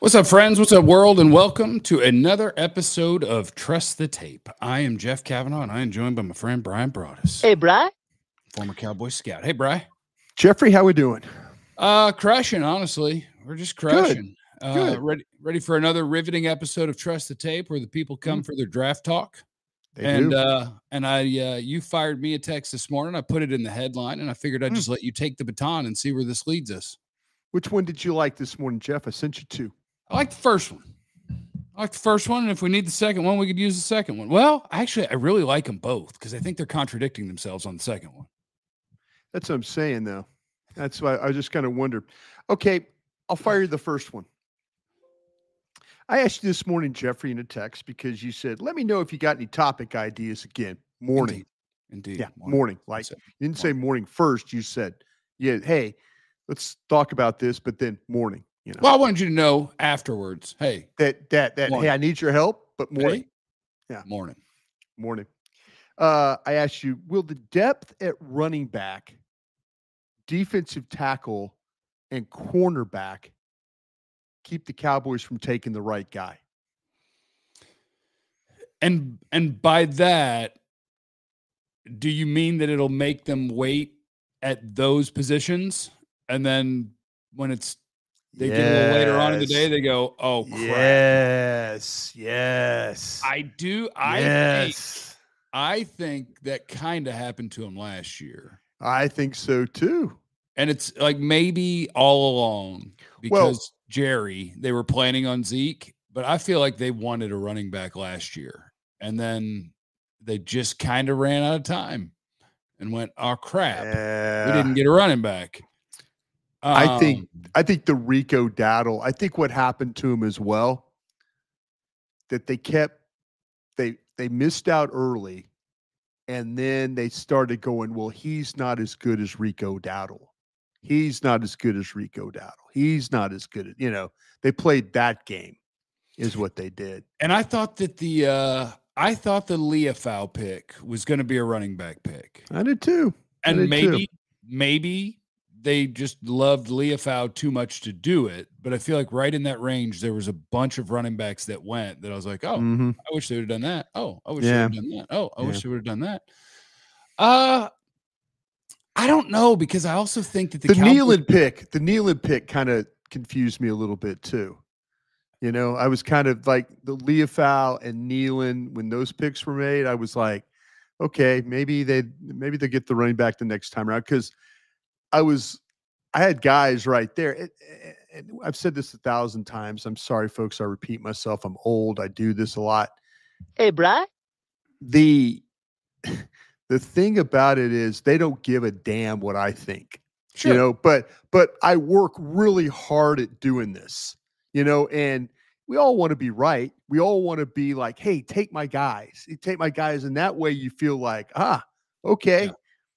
What's up, friends? What's up, world? And welcome to another episode of Trust the Tape. I am Jeff Kavanaugh, and I am joined by my friend Brian Broaddus. Hey, Bri. Former Cowboy Scout. Hey, Bri. Jeffrey, how we doing? Crushing, honestly. We're just crushing. Good. Ready for another riveting episode of Trust the Tape, where the people come for their draft talk. You fired me a text this morning. I put it in the headline, and I figured I'd just let you take the baton and see where this leads us. Which one did you like this morning, Jeff? I sent you two. I like the first one. And if we need the second one, we could use the second one. Well, actually, I really like them both because I think they're contradicting themselves on the second one. That's what I'm saying, though. That's why I just kind of wondered. Okay, I'll fire you the first one. I asked you this morning, Jeffrey, in a text because you said, let me know if you got any topic ideas again. Morning. Indeed. Yeah, morning. Like, you didn't say morning first. You said, yeah, hey, let's talk about this, but then morning. You know. Well, I wanted you to know afterwards. Hey, hey, I need your help, but morning. Hey, yeah, morning. I asked you, will the depth at running back, defensive tackle, and cornerback keep the Cowboys from taking the right guy? And by that, do you mean that it'll make them wait at those positions, and then when they get a little later on in the day, they go, oh, crap. Yes. I do. I think that kind of happened to him last year. I think so, too. And it's like maybe all along because Jerry, they were planning on Zeke, but I feel like they wanted a running back last year. And then they just kind of ran out of time and went, oh, crap. We didn't get a running back. I think the Rico Dowdle, I think what happened to him as well, that they missed out early, and then they started going, well, he's not as good as Rico Dowdle. He's not as good as Rico Dowdle. He's not as good as, they played that game is what they did. And I thought that the Leafau pick was going to be a running back pick. I did too. And maybe they just loved Leafau too much to do it. But I feel like right in that range, there was a bunch of running backs that went that I was like, oh, I wish they would have done that. Oh, I wish they would have done that. Oh, I wish they would have done that. I don't know, because I also think that the Nealon pick kind of confused me a little bit too. I was kind of like the Leafau and Nealon, when those picks were made, I was like, okay, maybe they get the running back the next time around, because I had guys right there. And I've said this 1,000 times. I'm sorry, folks. I repeat myself. I'm old. I do this a lot. Hey, Bri. The thing about it is they don't give a damn what I think, sure. But I work really hard at doing this, and we all want to be right. We all want to be like, hey, take my guys. And that way you feel like, okay,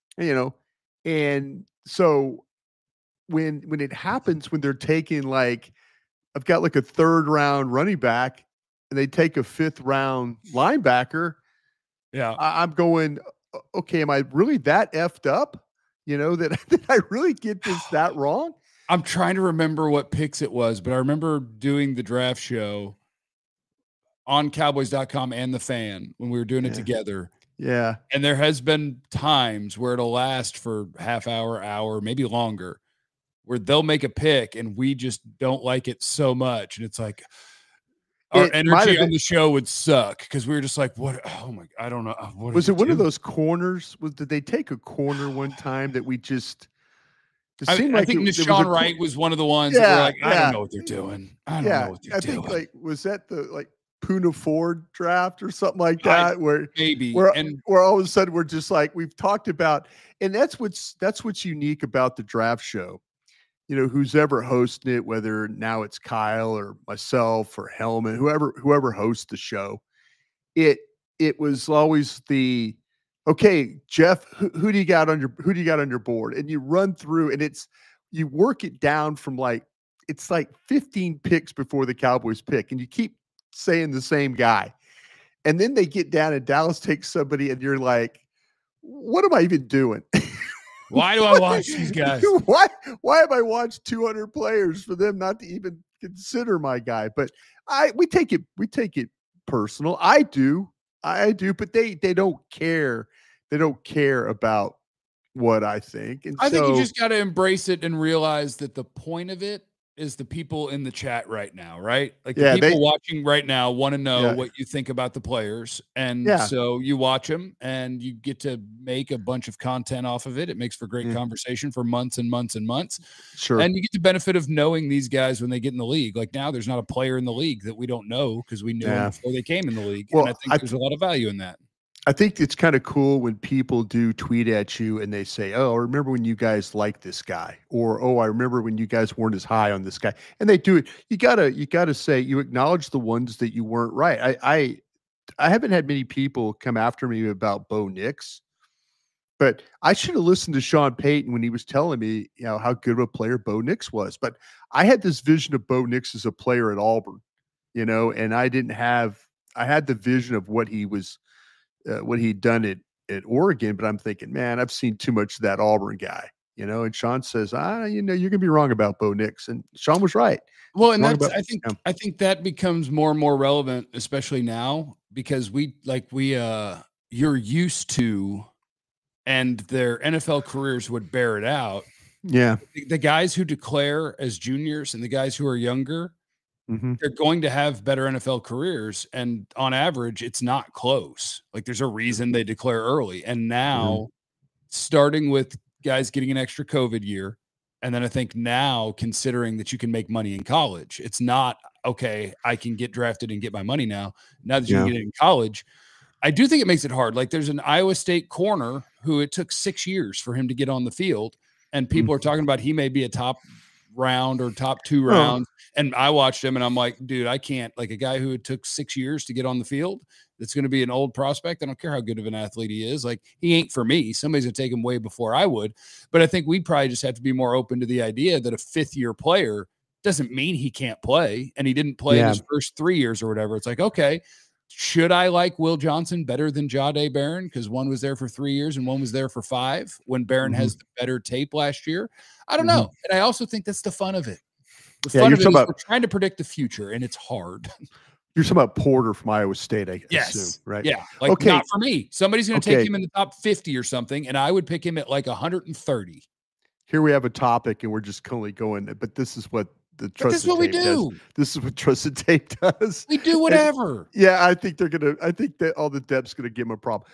and so when it happens, when they're taking I've got like a 3rd round running back and they take a 5th round linebacker. Yeah. I'm going, okay, am I really that effed up? That I really get this that wrong? I'm trying to remember what picks it was, but I remember doing the draft show on Cowboys.com and The Fan when we were doing it together. Yeah. And there has been times where it'll last for half hour, maybe longer, where they'll make a pick and we just don't like it so much. And it's like our energy on the show would suck because we were just like, what? Oh my, I don't know. Was it one of those corners? Did they take a corner one time that we just I think Nashawn Wright was one of the ones that were like, I don't know what they're doing. I don't know what they're doing. I think was that the Puna Ford draft or something like that, where all of a sudden we're just like, we've talked about, and that's what's unique about the draft show. Who's ever hosting it, whether now it's Kyle or myself or Hellman, whoever hosts the show, it was always okay, Jeff, who do you got on your board? And you run through, and you work it down from it's like 15 picks before the Cowboys pick, and you keep saying the same guy. And then they get down and Dallas takes somebody, and you're like, what am I even doing? Why do I watch these guys? Why have I watched 200 players for them not to even consider my guy? But we take it personal. I do, but they don't care. They don't care about what I think. And I think you just got to embrace it and realize that the point of it is the people in the chat right now, right? Like the people watching right now want to know what you think about the players. And so you watch them and you get to make a bunch of content off of it. It makes for great conversation for months and months and months. Sure. And you get the benefit of knowing these guys when they get in the league. Like now there's not a player in the league that we don't know because we knew them before they came in the league. Well, and I think there's a lot of value in that. I think it's kind of cool when people do tweet at you and they say, "Oh, I remember when you guys liked this guy," or "Oh, I remember when you guys weren't as high on this guy." And they do it. You gotta say you acknowledge the ones that you weren't right. I haven't had many people come after me about Bo Nix, but I should have listened to Sean Payton when he was telling me, how good of a player Bo Nix was. But I had this vision of Bo Nix as a player at Auburn, and I had the vision of what he was. What he'd done at Oregon, but I'm thinking, man, I've seen too much of that Auburn guy, and Sean says, you're gonna be wrong about Bo Nix. And Sean was right. Well, and I think that becomes more and more relevant, especially now, because you're used to, and their NFL careers would bear it out. Yeah. The guys who declare as juniors and the guys who are younger, they're going to have better NFL careers. And on average, it's not close. Like there's a reason they declare early. And now starting with guys getting an extra COVID year. And then I think now considering that you can make money in college, it's not, okay, I can get drafted and get my money now. Now that you can get it in college, I do think it makes it hard. Like there's an Iowa State corner who it took 6 years for him to get on the field. And people are talking about he may be a top round or top 2 rounds. And I watched him and I'm like, dude, I can't, like a guy who it took 6 years to get on the field, that's going to be an old prospect. I don't care how good of an athlete he is. Like he ain't for me. Somebody's gonna take him way before I would. But I think we'd probably just have to be more open to the idea that a 5th-year player doesn't mean he can't play. And he didn't play in his first 3 years or whatever. It's like, okay, should I like Will Johnson better than Jahdae Barron? Because one was there for 3 years and one was there for 5 when Barron has the better tape last year. I don't know. And I also think that's the fun of it. The fun of it is we're trying to predict the future, and it's hard. You're talking about Porter from Iowa State, I assume, right? Yeah. Like not for me. Somebody's going to take him in the top 50 or something, and I would pick him at like 130. Here we have a topic, and we're just currently going, but this is what the trusted tape does. This is what trusted tape does. We do whatever. And, I think that all the depth's going to give them a problem.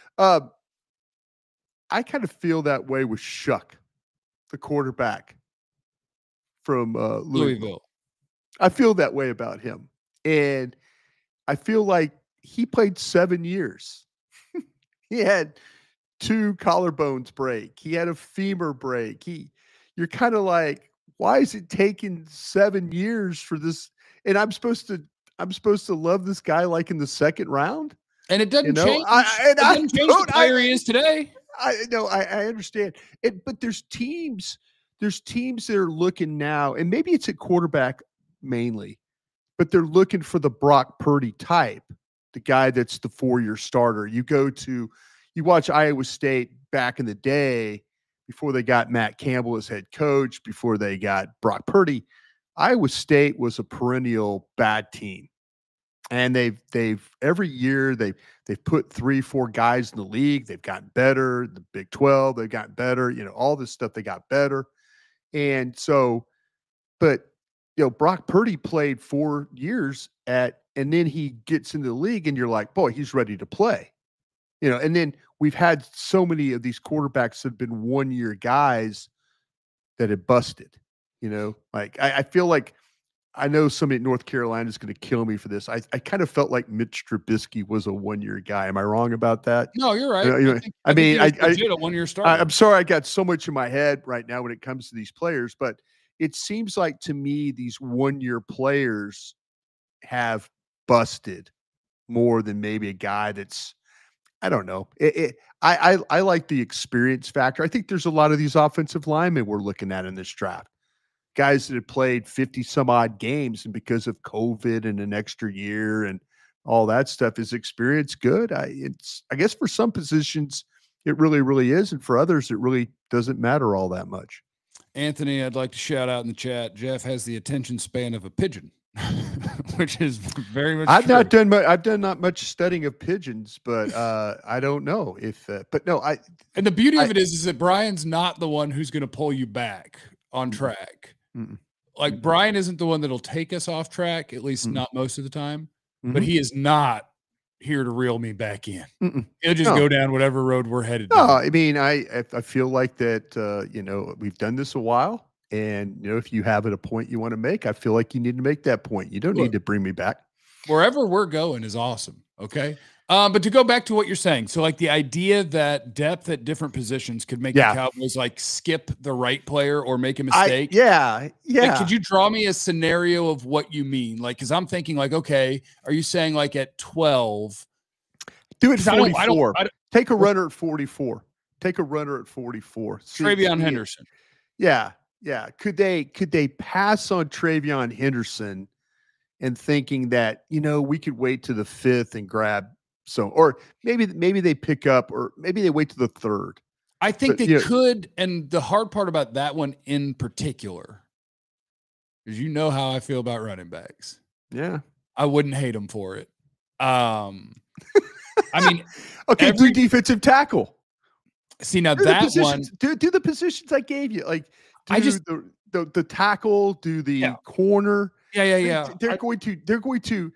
I kind of feel that way with Shuck, the quarterback from Louisville. I feel that way about him. And I feel like he played 7 years. He had 2 collarbones break. He had a femur break. You're kind of like, why is it taking 7 years for this? And I'm supposed to love this guy like in the 2nd round. And it doesn't change. It doesn't change the player he is today. I know. I understand it, but there's teams that are looking now, and maybe it's at quarterback mainly, but they're looking for the Brock Purdy type, the guy that's the 4-year starter. You watch Iowa State back in the day before they got Matt Campbell as head coach, before they got Brock Purdy. Iowa State was a perennial bad team. And they've every year they've put 3-4 guys in the league. They've gotten better. The Big 12, they've gotten better. All this stuff, they got better. And so, but Brock Purdy played 4 years and then he gets into the league, and you're like, boy, he's ready to play. And then we've had so many of these quarterbacks that have been 1-year guys that have busted. Like I feel like. I know somebody at North Carolina is going to kill me for this. I kind of felt like Mitch Trubisky was a 1-year guy. Am I wrong about that? No, you're right. I mean, a 1-year starter. I'm sorry I got so much in my head right now when it comes to these players, but it seems like to me these 1-year players have busted more than maybe a guy that's, I don't know. I like the experience factor. I think there's a lot of these offensive linemen we're looking at in this draft. Guys that have played 50 some odd games, and because of COVID and an extra year and all that stuff, is experience good? I guess for some positions It really, really is. And for others, it really doesn't matter all that much. Anthony, I'd like to shout out in the chat. Jeff has the attention span of a pigeon, which is very much. I've done not much studying of pigeons, but I don't know if. But no, And the beauty of it is that Brian's not the one who's going to pull you back on track. Like Brian isn't the one that'll take us off track, at least not most of the time. But he is not here to reel me back in. He'll just go down whatever road we're headed. No, I mean, I feel like that, you know, we've done this a while, and, you know, if you have a point you want to make, I feel like you need to make that point. You don't need to bring me back. Wherever we're going is awesome. Okay. But to go back to what you're saying, so like the idea that depth at different positions could make the Cowboys like skip the right player or make a mistake. Like, could you draw me a scenario of what you mean? Like, because I'm thinking like, okay, are you saying like at 12? Do it 44. Take a runner at 44. Take a runner at 44. TreVeyon Henderson. Yeah. Could they pass on TreVeyon Henderson and thinking that, you know, we could wait to the 5th and grab or maybe they pick up, or maybe they wait to the 3rd. I think they could. And the hard part about that one in particular is, you know how I feel about running backs. Yeah. I wouldn't hate them for it. I mean, okay, do defensive tackle. See, now that one, do the positions I gave you. Like, the tackle, do the corner. Yeah. They're going to.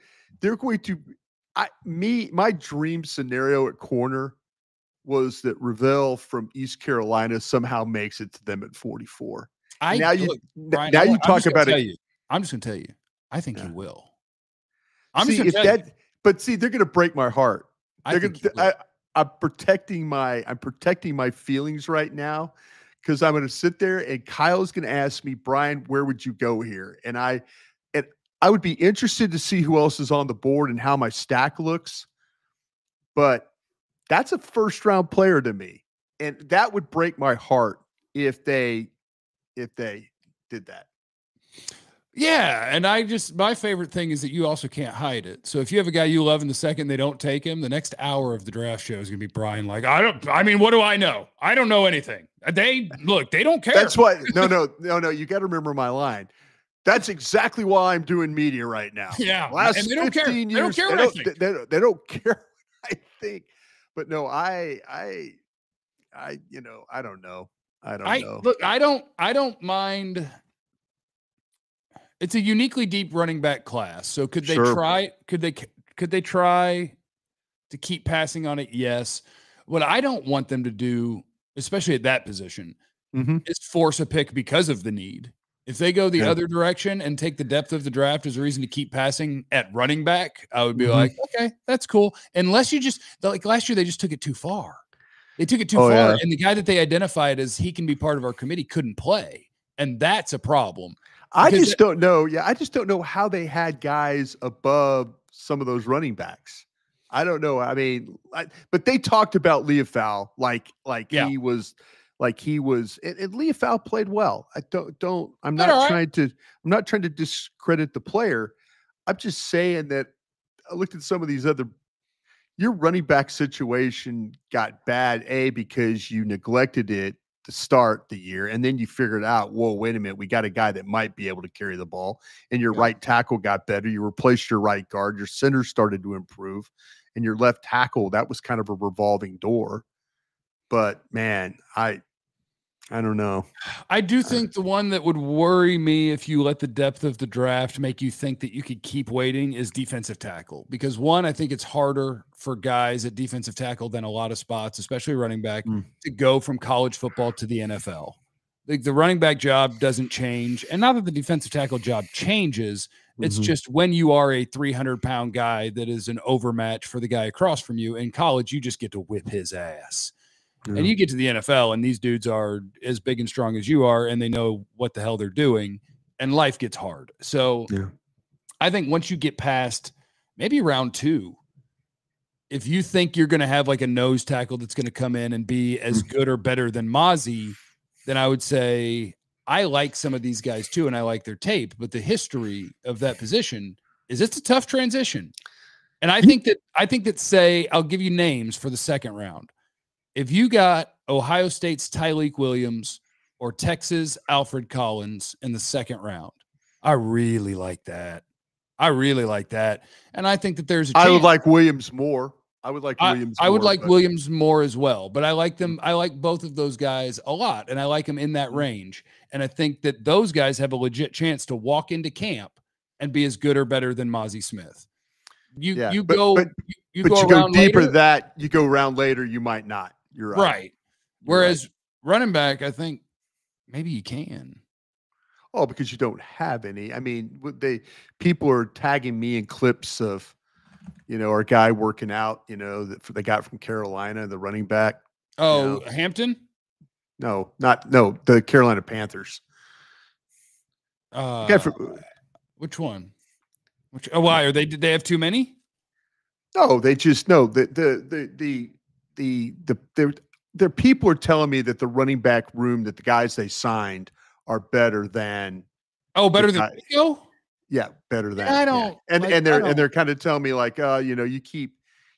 My dream scenario at corner was that Ravel from East Carolina somehow makes it to them at 44. Brian, you talk about it. I'm just going to tell you, I think he will. But they're going to break my heart. I'm protecting my feelings right now, because I'm going to sit there and Kyle's going to ask me, Brian, where would you go here? And I would be interested to see who else is on the board and how my stack looks. But that's a first round player to me. And that would break my heart if they did that. Yeah. And my favorite thing is that you also can't hide it. So if you have a guy you love in the second they don't take him, the next hour of the draft show is going to be Brian like, what do I know? I don't know anything. They don't care. That's why. No. You got to remember my line. That's exactly why I'm doing media right now. Yeah. Last they don't 15 care. years, they don't care what I think. They don't care what I think. But no, I don't know. Look, I don't mind. It's a uniquely deep running back class. So could they try to keep passing on it? Yes. What I don't want them to do, especially at that position, is force a pick because of the need. If they go the other direction and take the depth of the draft as a reason to keep passing at running back, I would be like, okay, that's cool. Unless you like last year, they just took it too far. They took it too far. Yeah. And the guy that they identified as he can be part of our committee couldn't play. And that's a problem. I just don't know. Yeah. I just don't know how they had guys above some of those running backs. I don't know. I mean, but they talked about Leofau he was. Like he was, and Leofau played well. I'm not trying to discredit the player. I'm just saying that I looked at some of these your running back situation got bad, because you neglected it to start the year. And then you figured out, whoa, wait a minute, we got a guy that might be able to carry the ball, and your right tackle got better. You replaced your right guard, your center started to improve, and your left tackle, that was kind of a revolving door. But man, I don't know. I do think the one that would worry me if you let the depth of the draft make you think that you could keep waiting is defensive tackle. Because one, I think it's harder for guys at defensive tackle than a lot of spots, especially running back, to go from college football to the NFL. The running back job doesn't change. And not that the defensive tackle job changes. It's just when you are a 300-pound guy that is an overmatch for the guy across from you in college, you just get to whip his ass. Yeah. And you get to the NFL, and these dudes are as big and strong as you are, and they know what the hell they're doing, and life gets hard. So I think once you get past maybe round 2, if you think you're going to have like a nose tackle that's going to come in and be as good or better than Mazi, then I would say I like some of these guys too, and I like their tape, but the history of that position is it's a tough transition. And I think that say, I'll give you names for the second round. if you got Ohio State's Tyleik Williams or Texas Alfred Collins in the second round, I really like that. And I think that there's a chance. I would like Williams more. I would like Williams more as well, but I like them. I like both of those guys a lot, and I like them in that range. And I think that those guys have a legit chance to walk into camp and be as good or better than Mazi Smith. You go deeper later, that you go around later, you might not. You're right. Right. Whereas running back, I think maybe you can. Oh, because you don't have any. I mean, people are tagging me in clips of, our guy working out, that they got from Carolina, the running back. Oh, Hampton? No, the Carolina Panthers. Which one? Why are they? Did they have too many? No, they just their people are telling me that the running back room, that the guys they signed are better than. Oh, better than Rico? Yeah, better than. I don't. Yeah. And they're kind of telling me like, you keep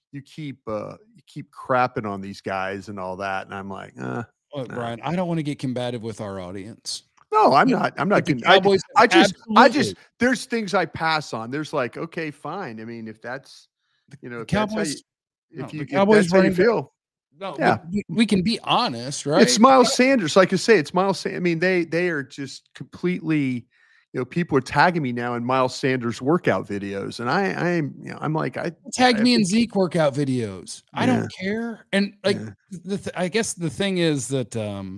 crapping on these guys and all that, and I'm like, Brian, I don't want to get combative with our audience. No, I'm not. I just there's things I pass on. There's like, okay, fine. I mean, if that's, the Cowboys, if that's how you feel. No, yeah, we can be honest, right? It's Miles Sanders. Like I say, it's Miles Sanders. I mean, they are just completely, people are tagging me now in Miles Sanders workout videos. And I'm like, tag me in Zeke workout videos. Yeah. I don't care. And like, I guess the thing is that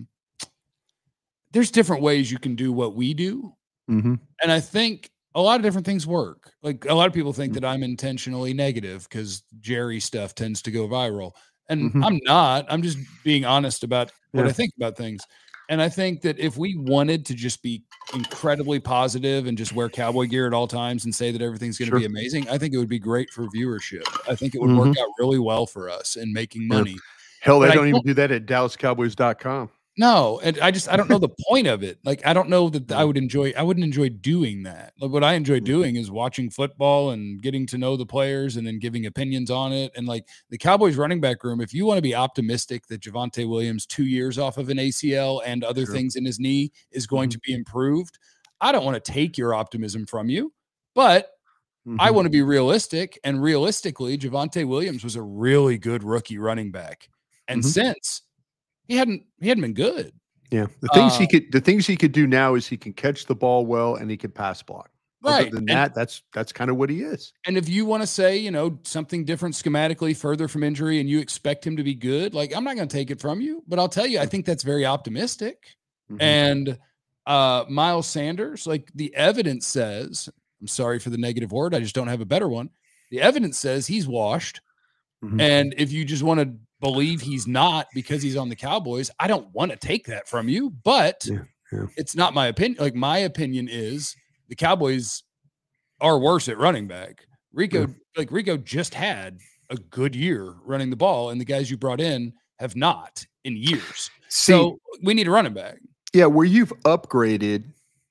there's different ways you can do what we do. Mm-hmm. And I think a lot of different things work. Like a lot of people think that I'm intentionally negative because Jerry stuff tends to go viral. And I'm not. I'm just being honest about what I think about things. And I think that if we wanted to just be incredibly positive and just wear cowboy gear at all times and say that everything's going to be amazing, I think it would be great for viewership. I think it would work out really well for us in making money. Hell, they don't even do that at DallasCowboys.com. No, and I don't know the point of it. Like, I don't know that I wouldn't enjoy doing that. Like, what I enjoy doing is watching football and getting to know the players and then giving opinions on it. And like the Cowboys running back room, if you want to be optimistic that Javonte Williams 2 years off of an ACL and other things in his knee is going to be improved, I don't want to take your optimism from you, but I want to be realistic. And realistically, Javonte Williams was a really good rookie running back. And since he hadn't been good. Yeah. The things he could do now is he can catch the ball well and he can pass block. Right. Other than that, that's kind of what he is. And if you want to say, something different schematically further from injury and you expect him to be good, like I'm not going to take it from you, but I'll tell you, I think that's very optimistic. And Miles Sanders, like the evidence says, I'm sorry for the negative word, I just don't have a better one. The evidence says he's washed. And if you just want to believe he's not because he's on the Cowboys, I don't want to take that from you, but it's not my opinion. Like my opinion is the Cowboys are worse at running back. Rico just had a good year running the ball, and the guys you brought in have not in years. So we need a running back. Yeah, where you've upgraded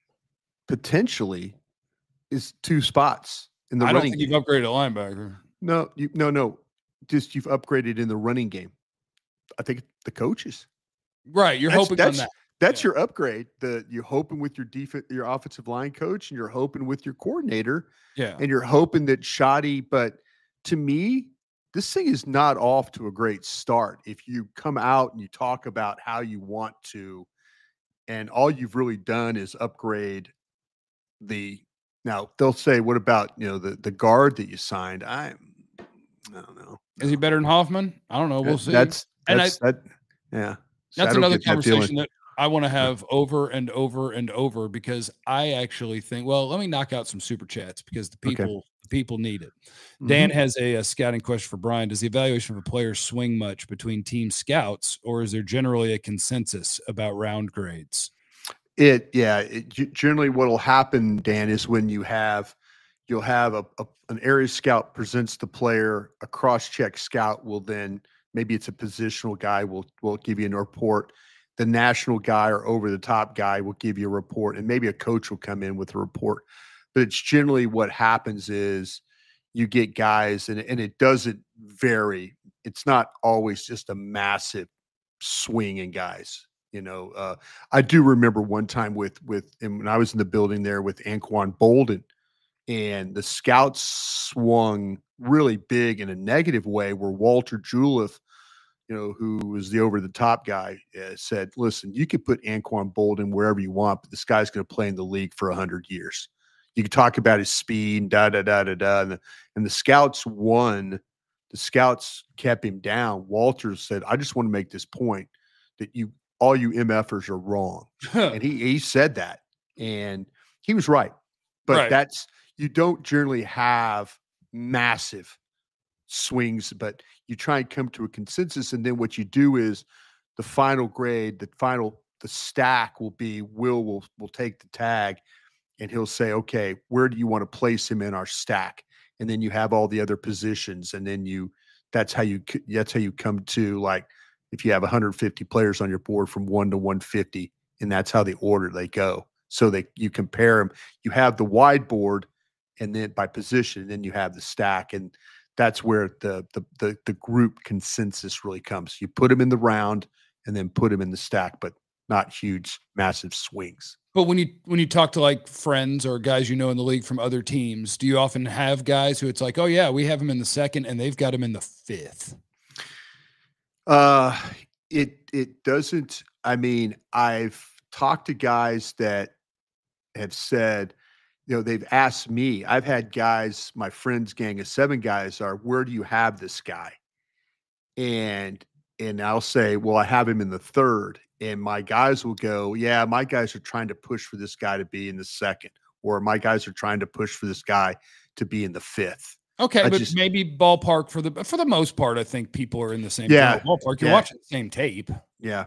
potentially is 2 spots in the running. I don't think you've upgraded a linebacker. No. Just you've upgraded in the running game. I think the coaches. Right. You're hoping on that. That's your upgrade. You're hoping with your offensive line coach, and you're hoping with your coordinator. Yeah. And you're hoping that Shoddy, but to me, this thing is not off to a great start. If you come out and you talk about how you want to, and all you've really done is upgrade now they'll say, what about, the guard that you signed? I don't know. Is he better than Hoffman? I don't know. We'll see. That's another conversation that I want to have over and over and over, because I actually think, well, let me knock out some super chats because the people need it. Dan has a scouting question for Brian. Does the evaluation of a player swing much between team scouts, or is there generally a consensus about round grades? Generally what will happen, Dan, is when you'll have an area scout presents the player, a cross-check scout will then, maybe it's a positional guy, will give you a report. The national guy or over-the-top guy will give you a report, and maybe a coach will come in with a report. But it's generally what happens is you get guys, and it doesn't vary. It's not always just a massive swinging guys. I do remember one time with when I was in the building there with Anquan Boldin, and the scouts swung really big in a negative way, where Walter Juleff, who was the over-the-top guy, said, listen, you could put Anquan Boldin wherever you want, but this guy's going to play in the league for 100 years. You can talk about his speed, and the scouts won. The scouts kept him down. Walter said, I just want to make this point that all you MFers are wrong. And he said that, and he was right. But you don't generally have massive swings, but you try and come to a consensus. And then what you do is the final grade, the stack will be will take the tag, and he'll say, okay, where do you want to place him in our stack? And then you have all the other positions. And then that's how you come to, like, if you have 150 players on your board from 1 to 150, and that's how the order they go. So you compare them, you have the wide board, and then by position, and then you have the stack. And that's where the group consensus really comes. You put them in the round and then put them in the stack, but not huge, massive swings. But when you talk to like friends or guys in the league from other teams, do you often have guys who it's like, oh yeah, we have him in the second and they've got him in the fifth? It doesn't. I mean, I've talked to guys that have said, they've asked me. I've had guys, my friend's gang of 7 guys are, where do you have this guy? And I'll say, well, I have him in the third. And my guys will go, yeah, my guys are trying to push for this guy to be in the second, or my guys are trying to push for this guy to be in the fifth. Okay, but maybe ballpark for the most part, I think people are in the same ballpark. You're watching the same tape. Yeah.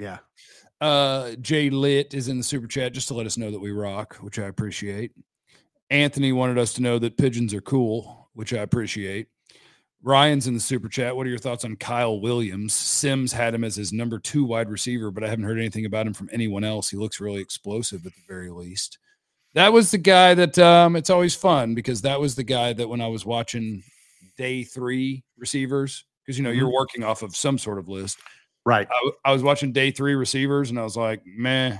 Jay Litt is in the super chat just to let us know that we rock, which I appreciate. Anthony wanted us to know that pigeons are cool, which I appreciate. Ryan's in the super chat. What are your thoughts on Kyle Williams? Sims had him as his number 2 wide receiver, but I haven't heard anything about him from anyone else. He looks really explosive at the very least. That was the guy that it's always fun, because that was the guy that when I was watching day 3 receivers, because, you're working off of some sort of list. Right. I was watching day 3 receivers and I was like, meh.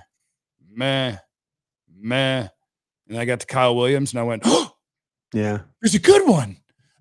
And I got to Kyle Williams and I went, oh, yeah, there's a good one.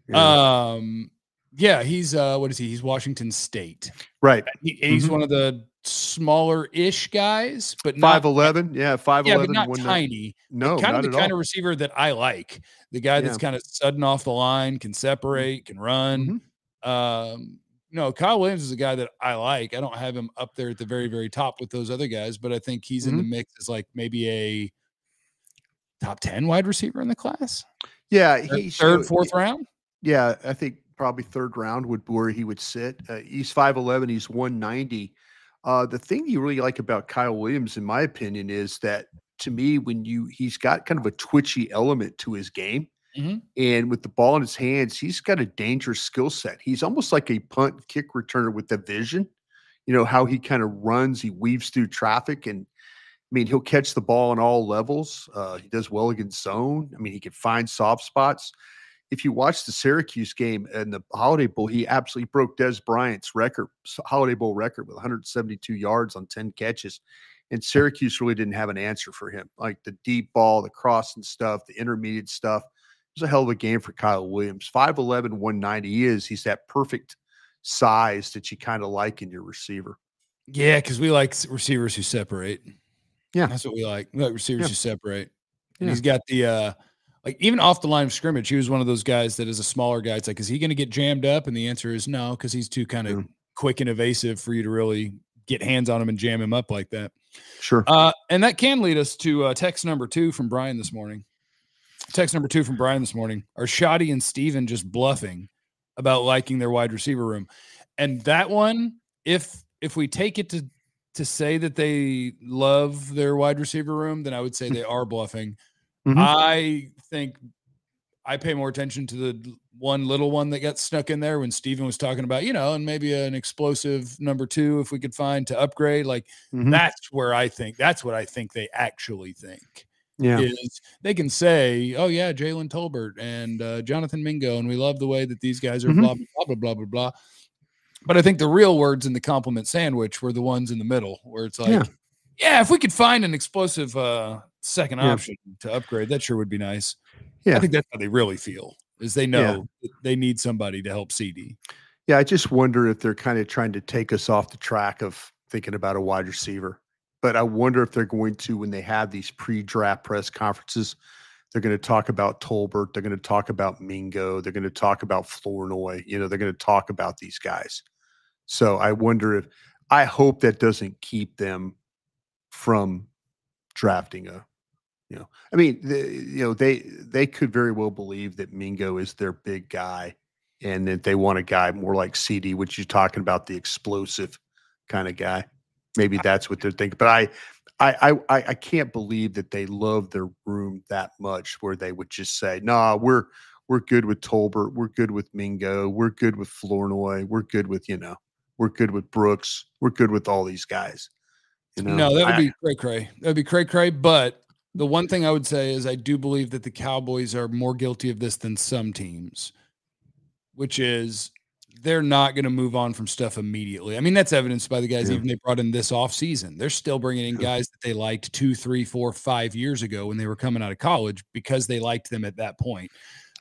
Yeah. He's what is he? He's Washington State. Right. He's one of the smaller-ish guys, but not 5'11". Yeah, 5'11". Yeah, but not tiny. No, kind of the kind of receiver that I like. The guy that's kind of sudden off the line, can separate, can run. Kyle Williams is a guy that I like. I don't have him up there at the very, very top with those other guys, but I think he's in the mix as like maybe a top 10 wide receiver in the class. Yeah, he's third, fourth round. Yeah, I think probably third round would be where he would sit. He's 5'11". He's 190. The thing you really like about Kyle Williams, in my opinion, is that, to me, he's got kind of a twitchy element to his game. And with the ball in his hands, he's got a dangerous skill set. He's almost like a punt kick returner with the vision. How he kind of runs, he weaves through traffic, and I mean, he'll catch the ball on all levels. He does well against zone. I mean, he can find soft spots. If you watch the Syracuse game and the Holiday Bowl, he absolutely broke Dez Bryant's Holiday Bowl record with 172 yards on 10 catches. And Syracuse really didn't have an answer for him. Like the deep ball, the crossing stuff, the intermediate stuff. It was a hell of a game for Kyle Williams. 5'11", 190 he's that perfect size that you kind of like in your receiver. Yeah, because we like receivers who separate. Yeah. That's what we like. We like receivers who separate. And he's got the like even off the line of scrimmage, he was one of those guys that is a smaller guy. It's like, is he going to get jammed up? And the answer is no, because he's too kind of quick and evasive for you to really get hands on him and jam him up like that. Sure. And that can lead us to text number 2 from Brian this morning. Are Shoddy and Steven just bluffing about liking their wide receiver room? And that one, if we take it to say that they love their wide receiver room, then I would say they are bluffing. I think I pay more attention to the one little one that got snuck in there when Steven was talking about, and maybe an explosive number 2 if we could find to upgrade. Like that's what I think they actually think. Yeah, is they can say, oh yeah, Jalen Tolbert and Jonathan Mingo, and we love the way that these guys are blah blah blah blah blah blah. But I think the real words in the compliment sandwich were the ones in the middle, where it's like, yeah, if we could find an explosive second option to upgrade, that sure would be nice. Yeah. I think that's how they really feel, is they know they need somebody to help CD. Yeah, I just wonder if they're kind of trying to take us off the track of thinking about a wide receiver. But I wonder if they're going to, when they have these pre-draft press conferences, they're going to talk about Tolbert. They're going to talk about Mingo. They're going to talk about Flournoy. They're going to talk about these guys. So I wonder I hope that doesn't keep them from drafting I mean, they could very well believe that Mingo is their big guy and that they want a guy more like CD, which you're talking about, the explosive kind of guy. Maybe that's what they're thinking. But I can't believe that they love their room that much where they would just say, nah, we're good with Tolbert. We're good with Mingo. We're good with Flournoy. We're good with, we're good with Brooks. We're good with all these guys. No, that would be cray-cray. That would be cray-cray. But the one thing I would say is I do believe that the Cowboys are more guilty of this than some teams, which is they're not going to move on from stuff immediately. I mean, that's evidenced by the guys even they brought in this offseason. They're still bringing in guys that they liked 2, 3, 4, 5 years ago when they were coming out of college because they liked them at that point.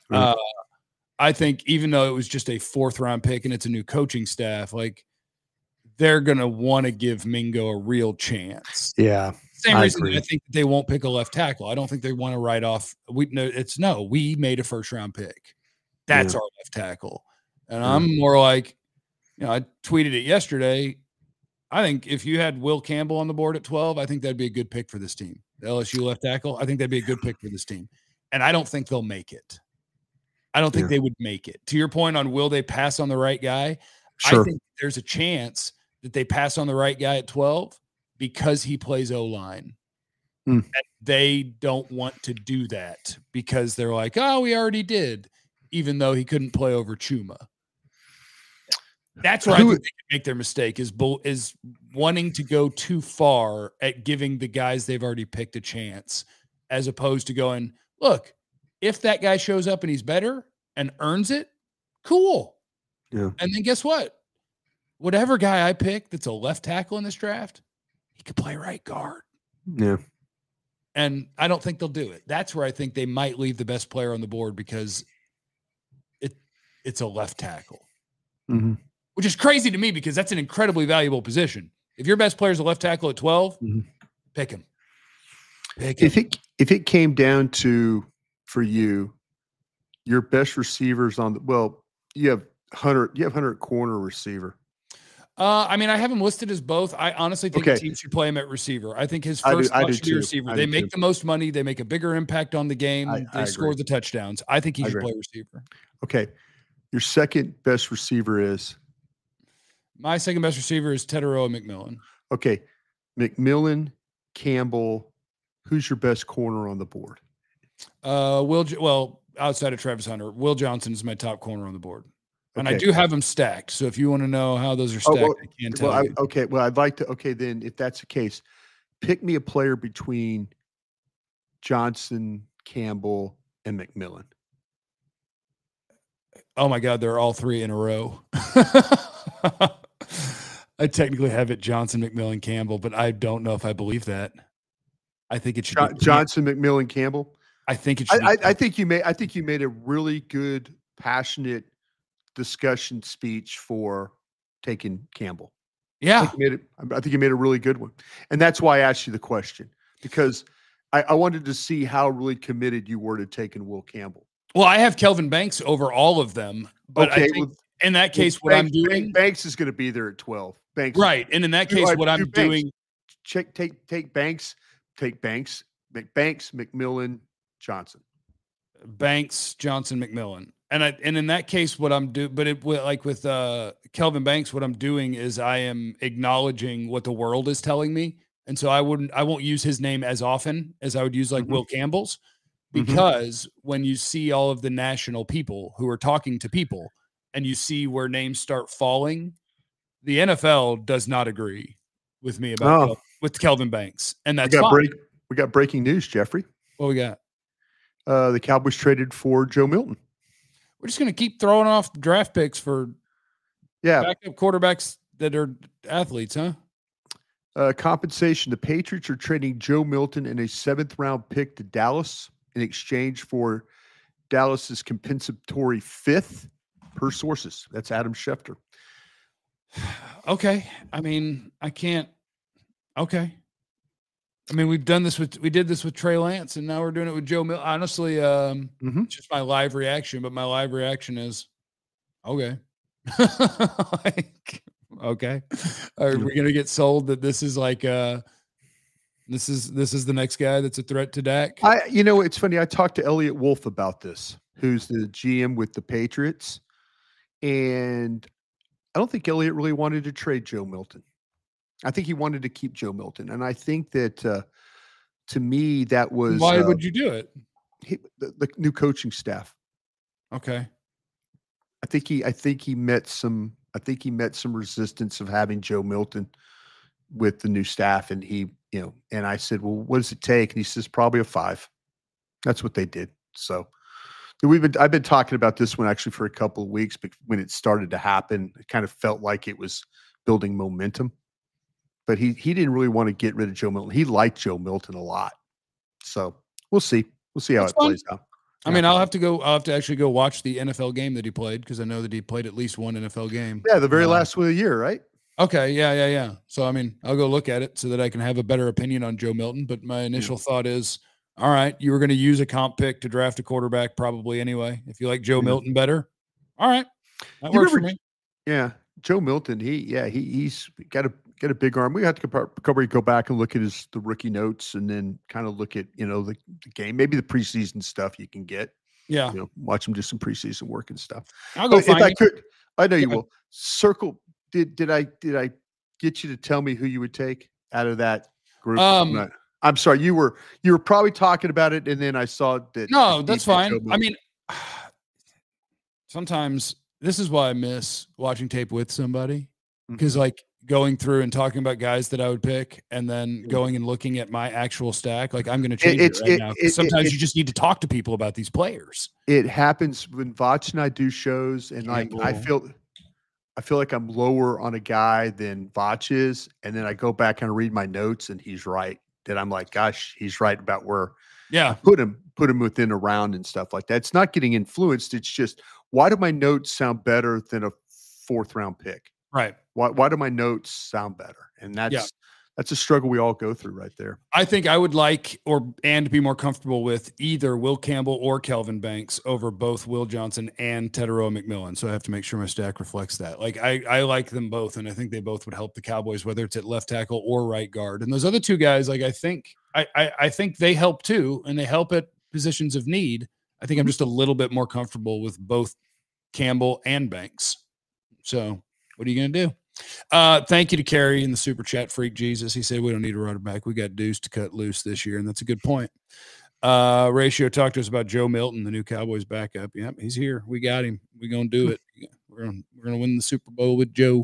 I think even though it was just a 4th-round pick and it's a new coaching staff, like they're going to want to give Mingo a real chance. Yeah. Same reason I think they won't pick a left tackle. I don't think they want to write off. We made a 1st-round pick. That's our left tackle. And I'm more like, I tweeted it yesterday. I think if you had Will Campbell on the board at 12, I think that'd be a good pick for this team. The LSU left tackle, I think that'd be a good pick for this team. And I don't think they'll make it. I don't think they would make it. To your point on will they pass on the right guy? Sure. I think there's a chance that they pass on the right guy at 12 because he plays O-line. And they don't want to do that because they're like, oh, we already did, even though he couldn't play over Chuma. That's where I think they can make their mistake is wanting to go too far at giving the guys they've already picked a chance, as opposed to going, look, if that guy shows up and he's better and earns it, cool. Yeah. And then guess what? Whatever guy I pick that's a left tackle in this draft, he could play right guard. Yeah. And I don't think they'll do it. That's where I think they might leave the best player on the board because it's a left tackle. Mm-hmm. Which is crazy to me because that's an incredibly valuable position. If your best player is a left tackle at 12, pick him. If it came down to, for you, your best receivers you have Hunter corner receiver. I mean, I have him listed as both. I honestly think the team should play him at receiver. I think his first should be receiver. They make the most money. They make a bigger impact on the game. They score the touchdowns. I think he should play receiver. Okay. Your second best receiver is? My second best receiver is Tetairoa McMillan. Okay. McMillan, Campbell. Who's your best corner on the board? Outside of Travis Hunter, Will Johnson is my top corner on the board. And I do have them stacked. So if you want to know how those are stacked, I can tell you. Okay. Well, I'd like to. Okay, then if that's the case, pick me a player between Johnson, Campbell, and McMillan. Oh my God, they're all 3 in a row. I technically have it Johnson, McMillan, Campbell, but I don't know if I believe that. I think it should be Johnson, McMillan, Campbell. I think it should. I think you made a really good, passionate discussion speech for taking Campbell. Yeah, I think you made a really good one, and that's why I asked you the question, because I wanted to see how really committed you were to taking Will Campbell. Well, I have Kelvin Banks over all of them, but I think in that case, Banks is going to be there at 12. Banks, right? And in that case, what I'm doing, take Banks, McMillan, Johnson. Banks, Johnson, McMillan. And in that case, what I'm doing, but like with Kelvin Banks, what I'm doing is I am acknowledging what the world is telling me. And so I won't use his name as often as I would use like Will Campbell's, because when you see all of the national people who are talking to people and you see where names start falling, the NFL does not agree with me about with Kelvin Banks. And that's we got breaking news, Jeffrey. What we got? The Cowboys traded for Joe Milton. We're just going to keep throwing off draft picks for Yeah. Backup quarterbacks that are athletes, huh? Compensation. The Patriots are trading Joe Milton and a 7th-round pick to Dallas in exchange for Dallas's compensatory 5th, per sources. That's Adam Schefter. Okay. I mean, I can't. Okay. I mean, we did this with Trey Lance, and now we're doing it with Joe Milton. Honestly, it's just my live reaction, but my live reaction is, okay. Like, okay. Are we gonna get sold that this is like this is the next guy that's a threat to Dak? It's funny. I talked to Elliot Wolf about this, who's the GM with the Patriots, and I don't think Elliot really wanted to trade Joe Milton. I think he wanted to keep Joe Milton, and I think that to me that was why would you do it? The new coaching staff. Okay. I think he met some resistance of having Joe Milton with the new staff, and and I said, well, what does it take? And he says, probably a 5. That's what they did. So I've been talking about this one actually for a couple of weeks, but when it started to happen, it kind of felt like it was building momentum. But he didn't really want to get rid of Joe Milton. He liked Joe Milton a lot. So we'll see. We'll see how it plays out. I mean, I'll have to actually go watch the NFL game that he played, because I know that he played at least one NFL game. Yeah, the very last one of the year, right? Okay, yeah. So, I mean, I'll go look at it so that I can have a better opinion on Joe Milton. But my initial thought is, all right, you were going to use a comp pick to draft a quarterback probably anyway. If you like Joe Milton better, all right, that works for me. Yeah, Joe Milton, he's got a big arm. We have to probably go back and look at the rookie notes, and then kind of look at the game, maybe the preseason stuff you can get. Yeah, watch him do some preseason work and stuff. I'll go find if I could. I know you will. Circle. Did I get you to tell me who you would take out of that group? I'm sorry. You were probably talking about it, and then I saw that. No, that's fine. I mean, sometimes this is why I miss watching tape with somebody, because like going through and talking about guys that I would pick, and then going and looking at my actual stack, like I'm going to change it right now. Sometimes you just need to talk to people about these players. It happens when Vach and I do shows, and like I feel like I'm lower on a guy than Vach is, and then I go back and read my notes, and he's right. That I'm like, gosh, he's right about where I put him within a round and stuff like that. It's not getting influenced. It's just, why do my notes sound better than a 4th-round pick? Right. Why do my notes sound better? And that's a struggle we all go through right there. I think I would like and be more comfortable with either Will Campbell or Kelvin Banks over both Will Johnson and Teteroa McMillan. So I have to make sure my stack reflects that. Like I like them both, and I think they both would help the Cowboys, whether it's at left tackle or right guard. And those other two guys, like I think they help too, and they help at positions of need. I think I'm just a little bit more comfortable with both Campbell and Banks. So what are you going to do? Thank you to Kerry in the super chat, Freak Jesus. He said we don't need a running back. We got Deuce to cut loose this year, and that's a good point. Ratio talked to us about Joe Milton, the new Cowboys backup. Yep, he's here. We got him. We're gonna do it. We're gonna win the Super Bowl with Joe.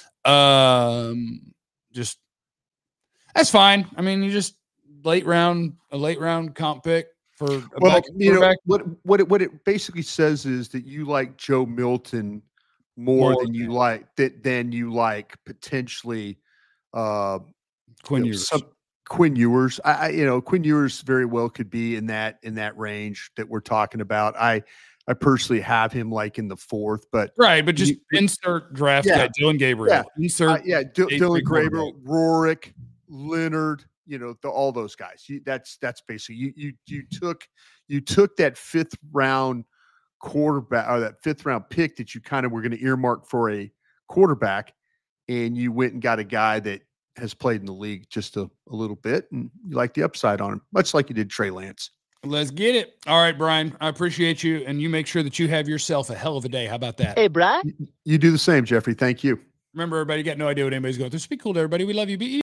Just that's fine. I mean, you just a late round comp pick for a quarterback. What it basically says is that you like Joe Milton more than you like potentially Quinn Ewers. Quinn Ewers. Quinn Ewers very well could be in that range that we're talking about. I personally have him like in the 4th, but just insert draft guy, Dylan Gabriel. Insert Dylan Gabriel, Rorick, Leonard. All those guys. That's basically you took that 5th-round quarterback, or that 5th-round pick that you kind of were going to earmark for a quarterback, and you went and got a guy that has played in the league just a little bit, and you like the upside on him, much like you did Trey Lance. Let's get it. All right, Brian, I appreciate you, and you make sure that you have yourself a hell of a day. How about that? Hey, Brian. You do the same, Jeffrey. Thank you. Remember, everybody, you got no idea what anybody's going through. So be cool to everybody. We love you. Be